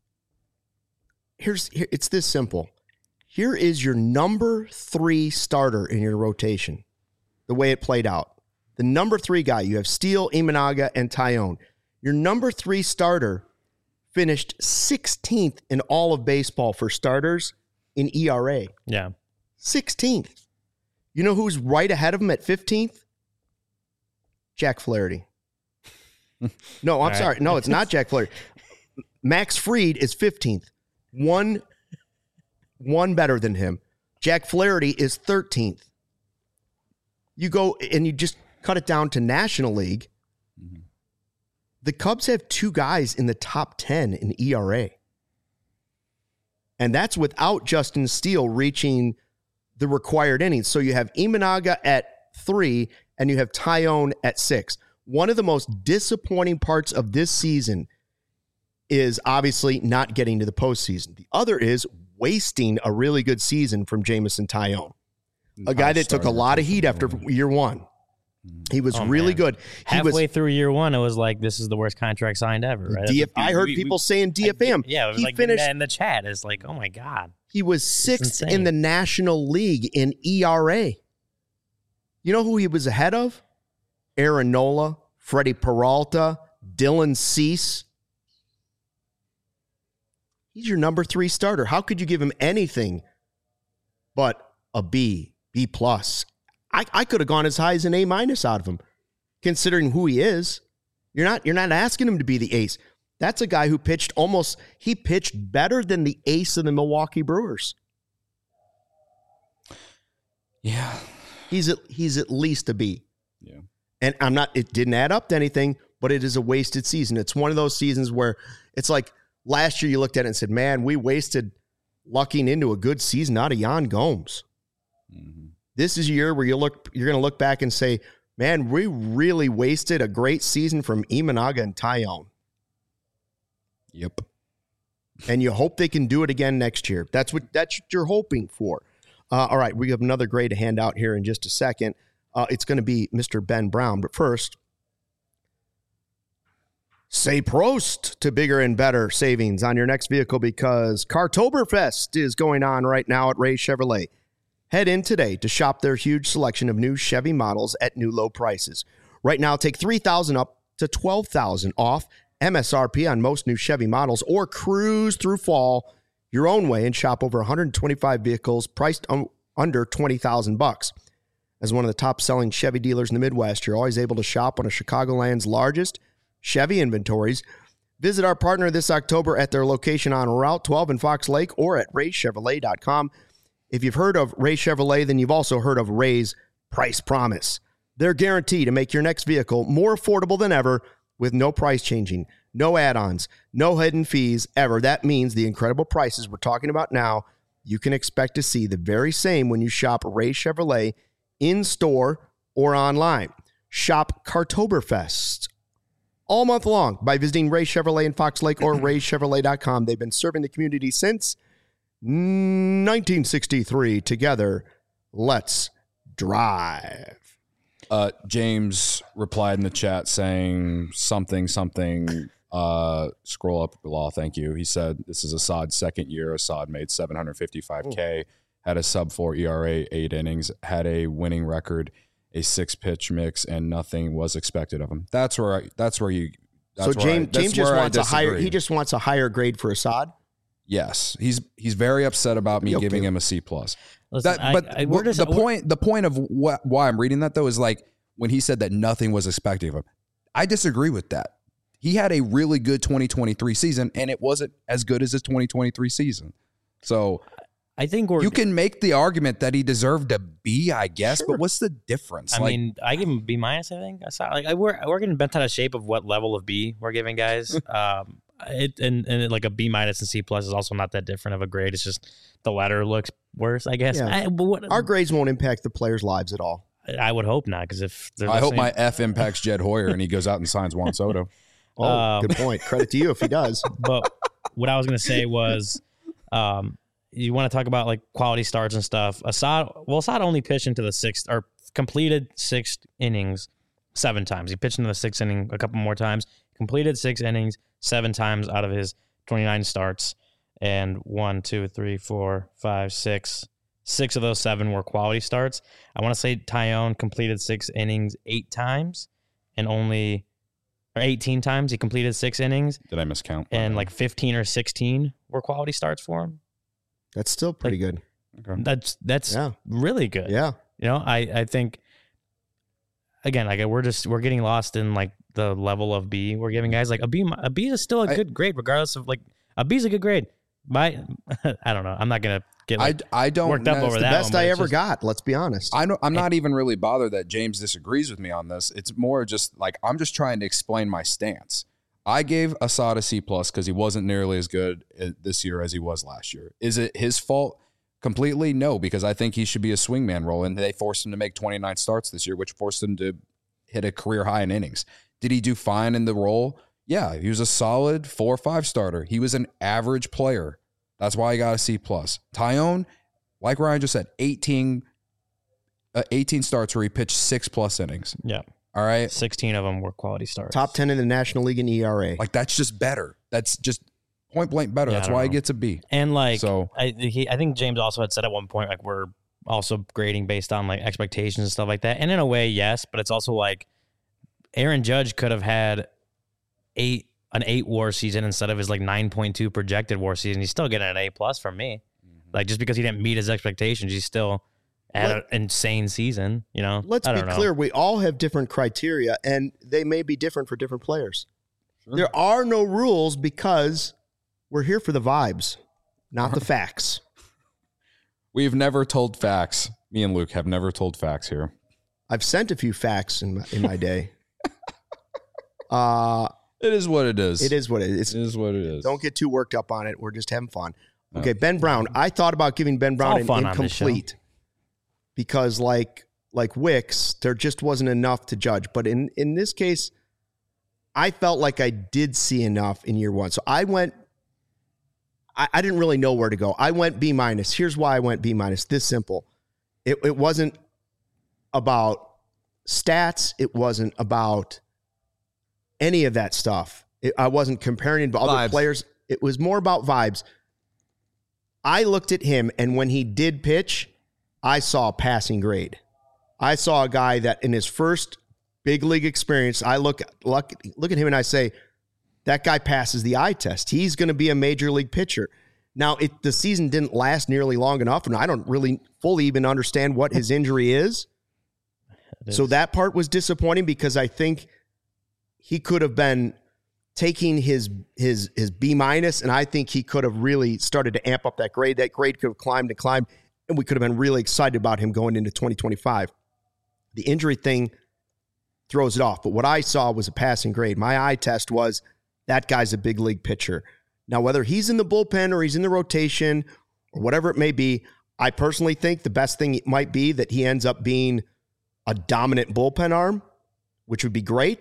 It's this simple. Here is your number 3 starter in your rotation, the way it played out. The number 3 guy, you have Steele, Imanaga, and Taillon. Your number 3 starter finished 16th in all of baseball for starters in ERA. Yeah. 16th. You know who's right ahead of him at 15th? Jack Flaherty. No, I'm sorry. No, it's not Jack Flaherty. Max Fried is 15th. One better than him. Jack Flaherty is 13th. You go and you just cut it down to National League. Mm-hmm. The Cubs have 2 guys in the top 10 in ERA. And that's without Justin Steele reaching the required innings. So you have Imanaga at 3 and you have Taillon at 6. One of the most disappointing parts of this season is obviously not getting to the postseason. The other is wasting a really good season from Jameson Taillon, a guy that took a lot of heat after year 1. He was really good. Halfway through year 1, it was like, this is the worst contract signed ever, right? I heard people saying DFM. Yeah, it was like finished in the chat. It's like, oh my God. He was 6th in the National League in ERA. You know who he was ahead of? Aaron Nola, Freddie Peralta, Dylan Cease. He's your number 3 starter. How could you give him anything but a B, B+? I could have gone as high as an A- out of him, considering who he is. You're not asking him to be the ace. That's a guy who pitched better than the ace of the Milwaukee Brewers. Yeah. He's at least a B. Yeah. And it didn't add up to anything, but it is a wasted season. It's one of those seasons where it's like last year you looked at it and said, man, we wasted lucking into a good season out of Yan Gomes. Mm-hmm. This is a year where you're going to look back and say, man, we really wasted a great season from Imanaga and Taillon. Yep. And you hope they can do it again next year. That's what you're hoping for. All right, we have another grade to hand out here in just a second. It's going to be Mr. Ben Brown. But first, say Prost to bigger and better savings on your next vehicle because Cartoberfest is going on right now at Ray Chevrolet. Head in today to shop their huge selection of new Chevy models at new low prices. Right now, take $3,000 up to $12,000 off MSRP on most new Chevy models or cruise through fall your own way and shop over 125 vehicles priced under $20,000. As one of the top-selling Chevy dealers in the Midwest, you're always able to shop one of Chicagoland's largest Chevy inventories. Visit our partner this October at their location on Route 12 in Fox Lake or at raychevrolet.com. If you've heard of Ray Chevrolet, then you've also heard of Ray's Price Promise. They're guaranteed to make your next vehicle more affordable than ever with no price changing, no add-ons, no hidden fees ever. That means the incredible prices we're talking about now, you can expect to see the very same when you shop Ray Chevrolet in-store or online. Shop Cartoberfest all month long by visiting Ray Chevrolet in Fox Lake or raychevrolet.com. They've been serving the community since 1963. Together, let's drive. James replied in the chat saying something, scroll up, Law, thank you. He said, this is Assad's second year. Assad made $755K, had a sub-4 ERA, 8 innings, had a winning record, a 6-pitch mix, and nothing was expected of him. James just wants a higher. He just wants a higher grade for Assad. Yes, he's very upset about me giving him a C+. Listen, the point of why I'm reading that though is like when he said that nothing was expected of him. I disagree with that. He had a really good 2023 season, and it wasn't as good as his 2023 season. So I think you can make the argument that he deserved a B, I guess, sure. But what's the difference? I mean, I give him a B-. I think I saw we're getting bent out of shape of what level of B we're giving guys. And like a B- and C+ is also not that different of a grade. It's just the letter looks worse, I guess. Yeah. Our grades won't impact the players' lives at all. I would hope not, because if I hope my F impacts Jed Hoyer and he goes out and signs Juan Soto. Good point. Credit to you if he does. But what I was going to say was, you want to talk about like quality starts and stuff. Assad only pitched into the sixth or completed 6 innings 7 times. He pitched into the 6th inning a couple more times, completed 6 innings 7 times out of his 29 starts. And 1, 2, 3, 4, 5, 6. 6 of those 7 were quality starts. I want to say Taillon completed 6 innings 8 times and 18 times. He completed 6 innings. Did I miscount? And like 15 or 16 were quality starts for him. That's still pretty good. Okay. That's really good. Yeah. You know, I think again, like we're getting lost in like the level of B we're giving guys. Like a B is still a good grade, regardless of like a B is a good grade. I don't know. I'm not gonna get I don't worked up over that. The best I ever got. Let's be honest. I'm not even really bothered that James disagrees with me on this. It's more just like I'm just trying to explain my stance. I gave Assad a C+ because he wasn't nearly as good this year as he was last year. Is it his fault completely? No, because I think he should be a swingman role, and they forced him to make 29 starts this year, which forced him to hit a career high in innings. Did he do fine in the role? Yeah, he was a solid 4 or 5 starter. He was an average player. That's why I got a C+. Taillon, like Ryan just said, 18 starts where he pitched 6+ innings. Yeah. All right. 16 of them were quality starts. Top 10 in the National League in ERA. Like, that's just better. That's just point blank better. That's why he gets a B. And like, so I think James also had said at one point, like, we're also grading based on like expectations and stuff like that. And in a way, yes, but it's also like Aaron Judge could have had an 8 WAR season instead of his like 9.2 projected WAR season. He's still getting an A+ from me. Like, just because he didn't meet his expectations, he's still at an insane season, you know? Let's be clear. We all have different criteria, and they may be different for different players. Sure. There are no rules because we're here for the vibes, not the facts. We've never told facts. Me and Luke have never told facts here. I've sent a few facts in my day. It is what it is. It is what it is. It is what it is. Don't get too worked up on it. We're just having fun. Okay, Ben Brown. I thought about giving Ben Brown an incomplete because like Wicks, there just wasn't enough to judge. But in this case, I felt like I did see enough in year 1. So I went, I didn't really know where to go. I went B-. Here's why I went B-. This simple. It wasn't about stats. It wasn't about any of that stuff. I wasn't comparing him to other players. It was more about vibes. I looked at him, and when he did pitch, I saw a passing grade. I saw a guy that in his first big league experience, I look at him and I say, that guy passes the eye test. He's going to be a major league pitcher. Now, the season didn't last nearly long enough, and I don't really fully even understand what his injury is. So that part was disappointing because I think he could have been taking his B-, and I think he could have really started to amp up that grade. That grade could have climbed, and we could have been really excited about him going into 2025. The injury thing throws it off, but what I saw was a passing grade. My eye test was that guy's a big league pitcher. Now, whether he's in the bullpen or he's in the rotation or whatever it may be, I personally think the best thing might be that he ends up being a dominant bullpen arm, which would be great,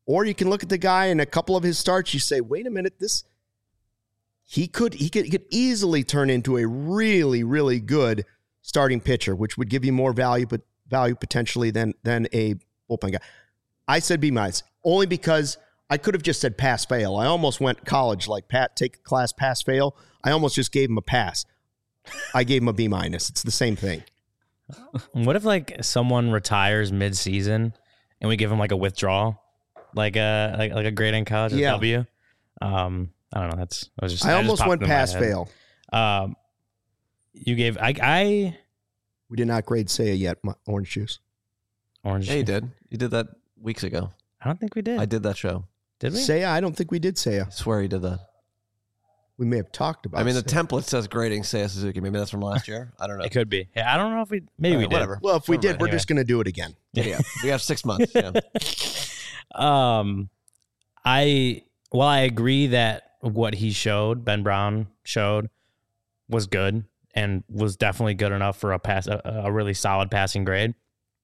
Or you can look at the guy in a couple of his starts. You say, wait a minute, he could easily turn into a really, really good starting pitcher, which would give you more value potentially than a bullpen guy. I said B-, only because I could have just said pass fail. I almost went college like Pat, take a class, pass fail. I almost just gave him a pass. I gave him a B-. It's the same thing. What if like someone retires mid-season and we give him like a withdrawal, like a grade in college, a W? I don't know. I almost went pass fail. You gave We did not grade Seiya yet. Orange juice. Orange. Yeah, you did. You did that weeks ago. I don't think we did. I did that show. Did we? Seiya? I don't think we did Seiya. I swear you did that. We may have talked about. I mean, the Seiya. template says grading Seiya Suzuki. Maybe that's from last year. I don't know. It could be. Yeah, I don't know if we. Maybe we did. Whatever. Well, if we did, we're Anyway. just going to do it again. Yeah. We have 6 months. Yeah. While I agree that what he showed, Ben Brown showed, was good and was definitely good enough for a really solid passing grade.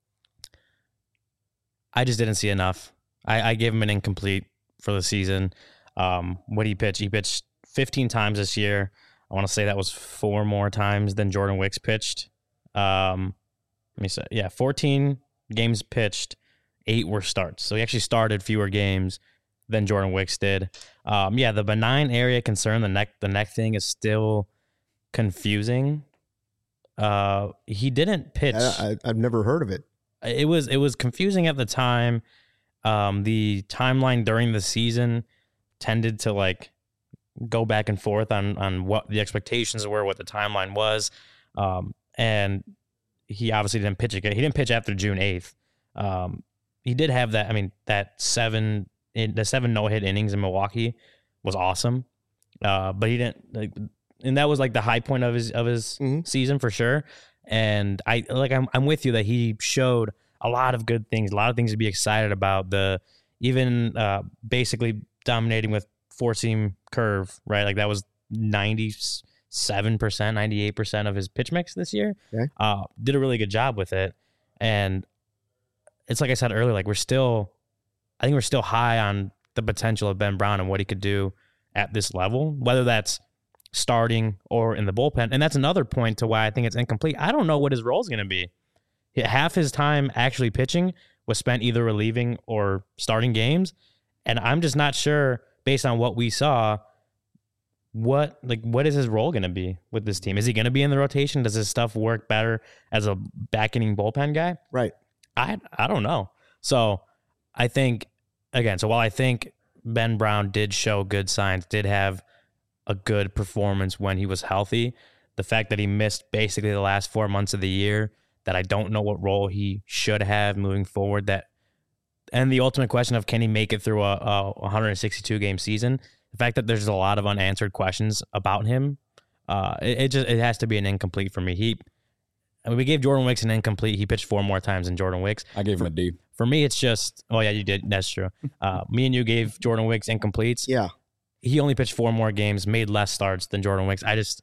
I just didn't see enough. I gave him an incomplete for the season. What he pitched 15 times this year. I want to say that was 4 more times than Jordan Wicks pitched. Let me say, 14 games pitched, 8 were starts. So he actually started fewer games than Jordan Wicks did. The benign area concern, the neck thing is still confusing. He didn't pitch. I've never heard of it. It was confusing at the time. The timeline during the season tended to like go back and forth on what the expectations were, what the timeline was. And he obviously didn't pitch again. He didn't pitch after June 8th. He did have that. I mean, the 7 no-hit innings in Milwaukee was awesome. But he didn't and that was like the high point of his season for sure. And I'm with you that he showed a lot of good things, a lot of things to be excited about. Basically dominating with 4-seam curve, right? Like that was 97%, 98% of his pitch mix this year. Okay. Did a really good job with it. And it's like I said earlier, like I think we're still high on the potential of Ben Brown and what he could do at this level, whether that's starting or in the bullpen. And that's another point to why I think it's incomplete. I don't know what his role is going to be. Half his time actually pitching was spent either relieving or starting games. And I'm just not sure, based on what we saw, what is his role going to be with this team? Is he going to be in the rotation? Does his stuff work better as a back-inning bullpen guy? Right. I don't know. So I think, again, while I think Ben Brown did show good signs, did have a good performance when he was healthy, the fact that he missed basically the last 4 months of the year, that I don't know what role he should have moving forward, and the ultimate question of can he make it through a 162-game season, the fact that there's a lot of unanswered questions about him, it has to be an incomplete for me. We gave Jordan Wicks an incomplete. He pitched 4 more times than Jordan Wicks. I gave him a D. For me, it's just, oh yeah, you did. That's true. Me and you gave Jordan Wicks incompletes. Yeah. He only pitched 4 more games, made less starts than Jordan Wicks.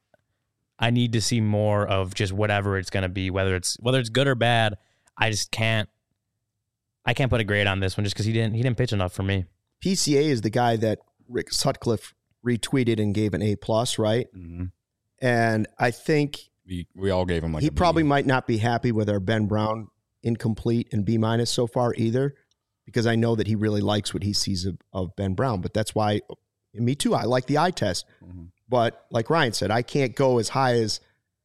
I need to see more of just whatever it's going to be, whether it's good or bad. I can't put a grade on this one just because he didn't pitch enough for me. PCA is the guy that Rick Sutcliffe retweeted and gave an A+, right? Mm-hmm. And I think we all gave him like he a B. probably might not be happy with our Ben Brown incomplete and B- so far either, because I know that he really likes what he sees of Ben Brown. But that's why, and me too, I like the eye test. Mm-hmm. But like Ryan said, I can't go as high as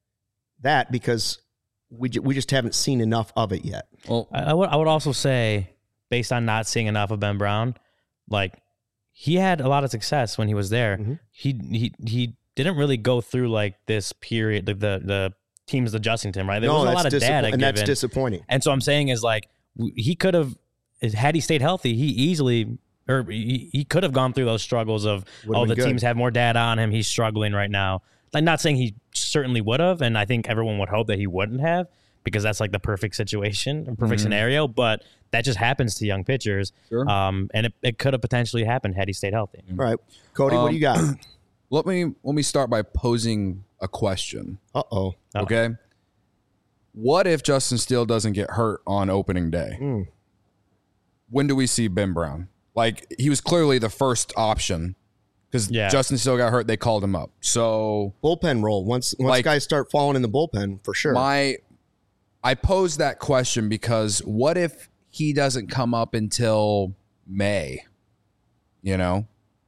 that because we just haven't seen enough of it yet. Well, I would also say, based on not seeing enough of Ben Brown, like he had a lot of success when he was there. Mm-hmm. He didn't really go through like this period, the teams adjusting to him, right? There was a lot of data and that's disappointing. And so I'm saying is like he could have, had he stayed healthy, he could have gone through those struggles of, the teams have more data on him, he's struggling right now. Like, not saying he certainly would have, and I think everyone would hope that he wouldn't have, because that's like the perfect situation, perfect scenario, but that just happens to young pitchers. Sure. And it could have potentially happened had he stayed healthy. All right. Cody, what do you got? let me start by posing a question. Uh-oh. Okay. What if Justin Steele doesn't get hurt on opening day? When do we see Ben Brown? Like, he was clearly the first option because Justin Steele got hurt. They called him up. So bullpen role. Once guys start falling in the bullpen, for sure. I posed that question because what if he doesn't come up until May? You know,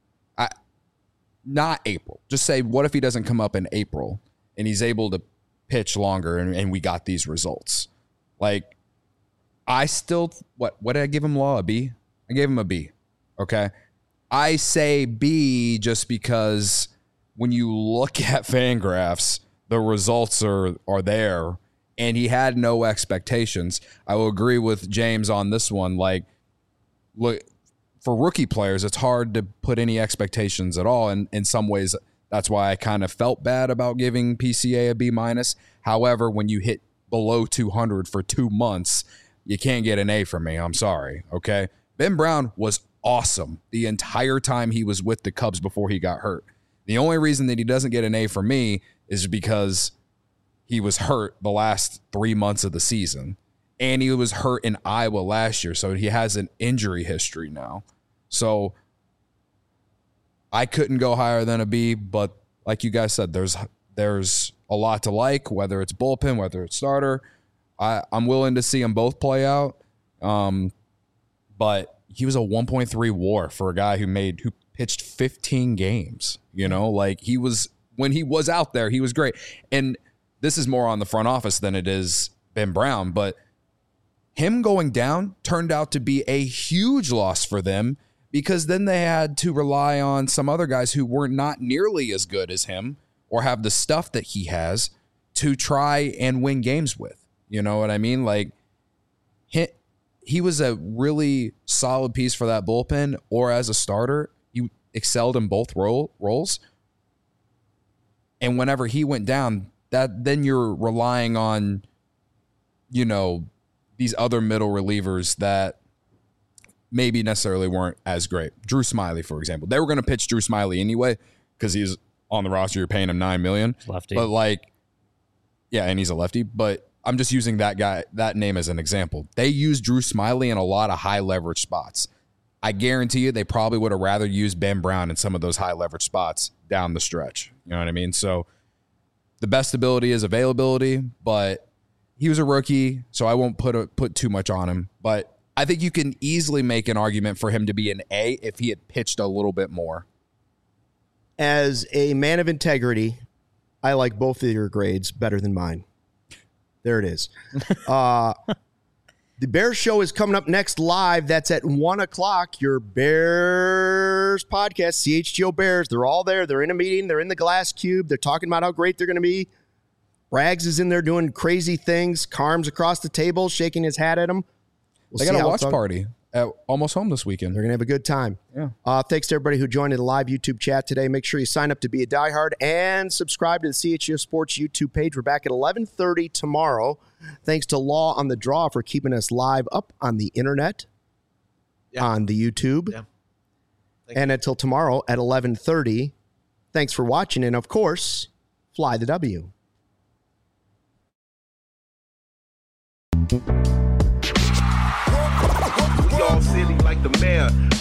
not April. Just say, what if he doesn't come up in April and he's able to pitch longer and we got these results? Like, I still, what did I give him, Law? A B? I gave him a B. Okay. I say B just because when you look at Fangraphs, the results are there and he had no expectations. I will agree with James on this one. Like, look, for rookie players, it's hard to put any expectations at all. And in some ways, that's why I kind of felt bad about giving PCA a B-. However, when you hit below 200 for 2 months, you can't get an A from me. I'm sorry. Okay. Ben Brown was awesome the entire time he was with the Cubs before he got hurt. The only reason that he doesn't get an A from me is because he was hurt the last 3 months of the season. And he was hurt in Iowa last year. So he has an injury history now. So I couldn't go higher than a B, but like you guys said, there's a lot to like, whether it's bullpen, whether it's starter. I'm willing to see them both play out. But he was a 1.3 WAR for a guy who pitched 15 games. You know, like when he was out there, he was great. And this is more on the front office than it is Ben Brown, but him going down turned out to be a huge loss for them because then they had to rely on some other guys who were not nearly as good as him or have the stuff that he has to try and win games with. You know what I mean? Like, he was a really solid piece for that bullpen, or as a starter, he excelled in both roles. And whenever he went down, then you're relying on, you know, these other middle relievers that maybe necessarily weren't as great. Drew Smyly, for example. They were going to pitch Drew Smyly anyway because he's on the roster. You're paying him $9 million. Lefty. But like, yeah, and he's a lefty. But I'm just using that name as an example. They used Drew Smyly in a lot of high leverage spots. I guarantee you they probably would have rather used Ben Brown in some of those high leverage spots down the stretch. You know what I mean? So the best ability is availability, but he was a rookie, so I won't put too much on him. But I think you can easily make an argument for him to be an A if he had pitched a little bit more. As a man of integrity, I like both of your grades better than mine. There it is. The Bears Show is coming up next live. That's at 1 o'clock. Your Bears podcast, CHGO Bears. They're all there. They're in a meeting. They're in the glass cube. They're talking about how great they're going to be. Rags is in there doing crazy things. Carm's across the table, shaking his hat at him. They got a watch party at Almost Home this weekend. They're going to have a good time. Yeah. Thanks to everybody who joined in the live YouTube chat today. Make sure you sign up to be a diehard and subscribe to the CHGO Sports YouTube page. We're back at 11:30 tomorrow. Thanks to Law on the Draw for keeping us live up on the internet, on the YouTube. Yeah. And until tomorrow at 11:30, thanks for watching. And, of course, fly the W. We all silly like the mayor.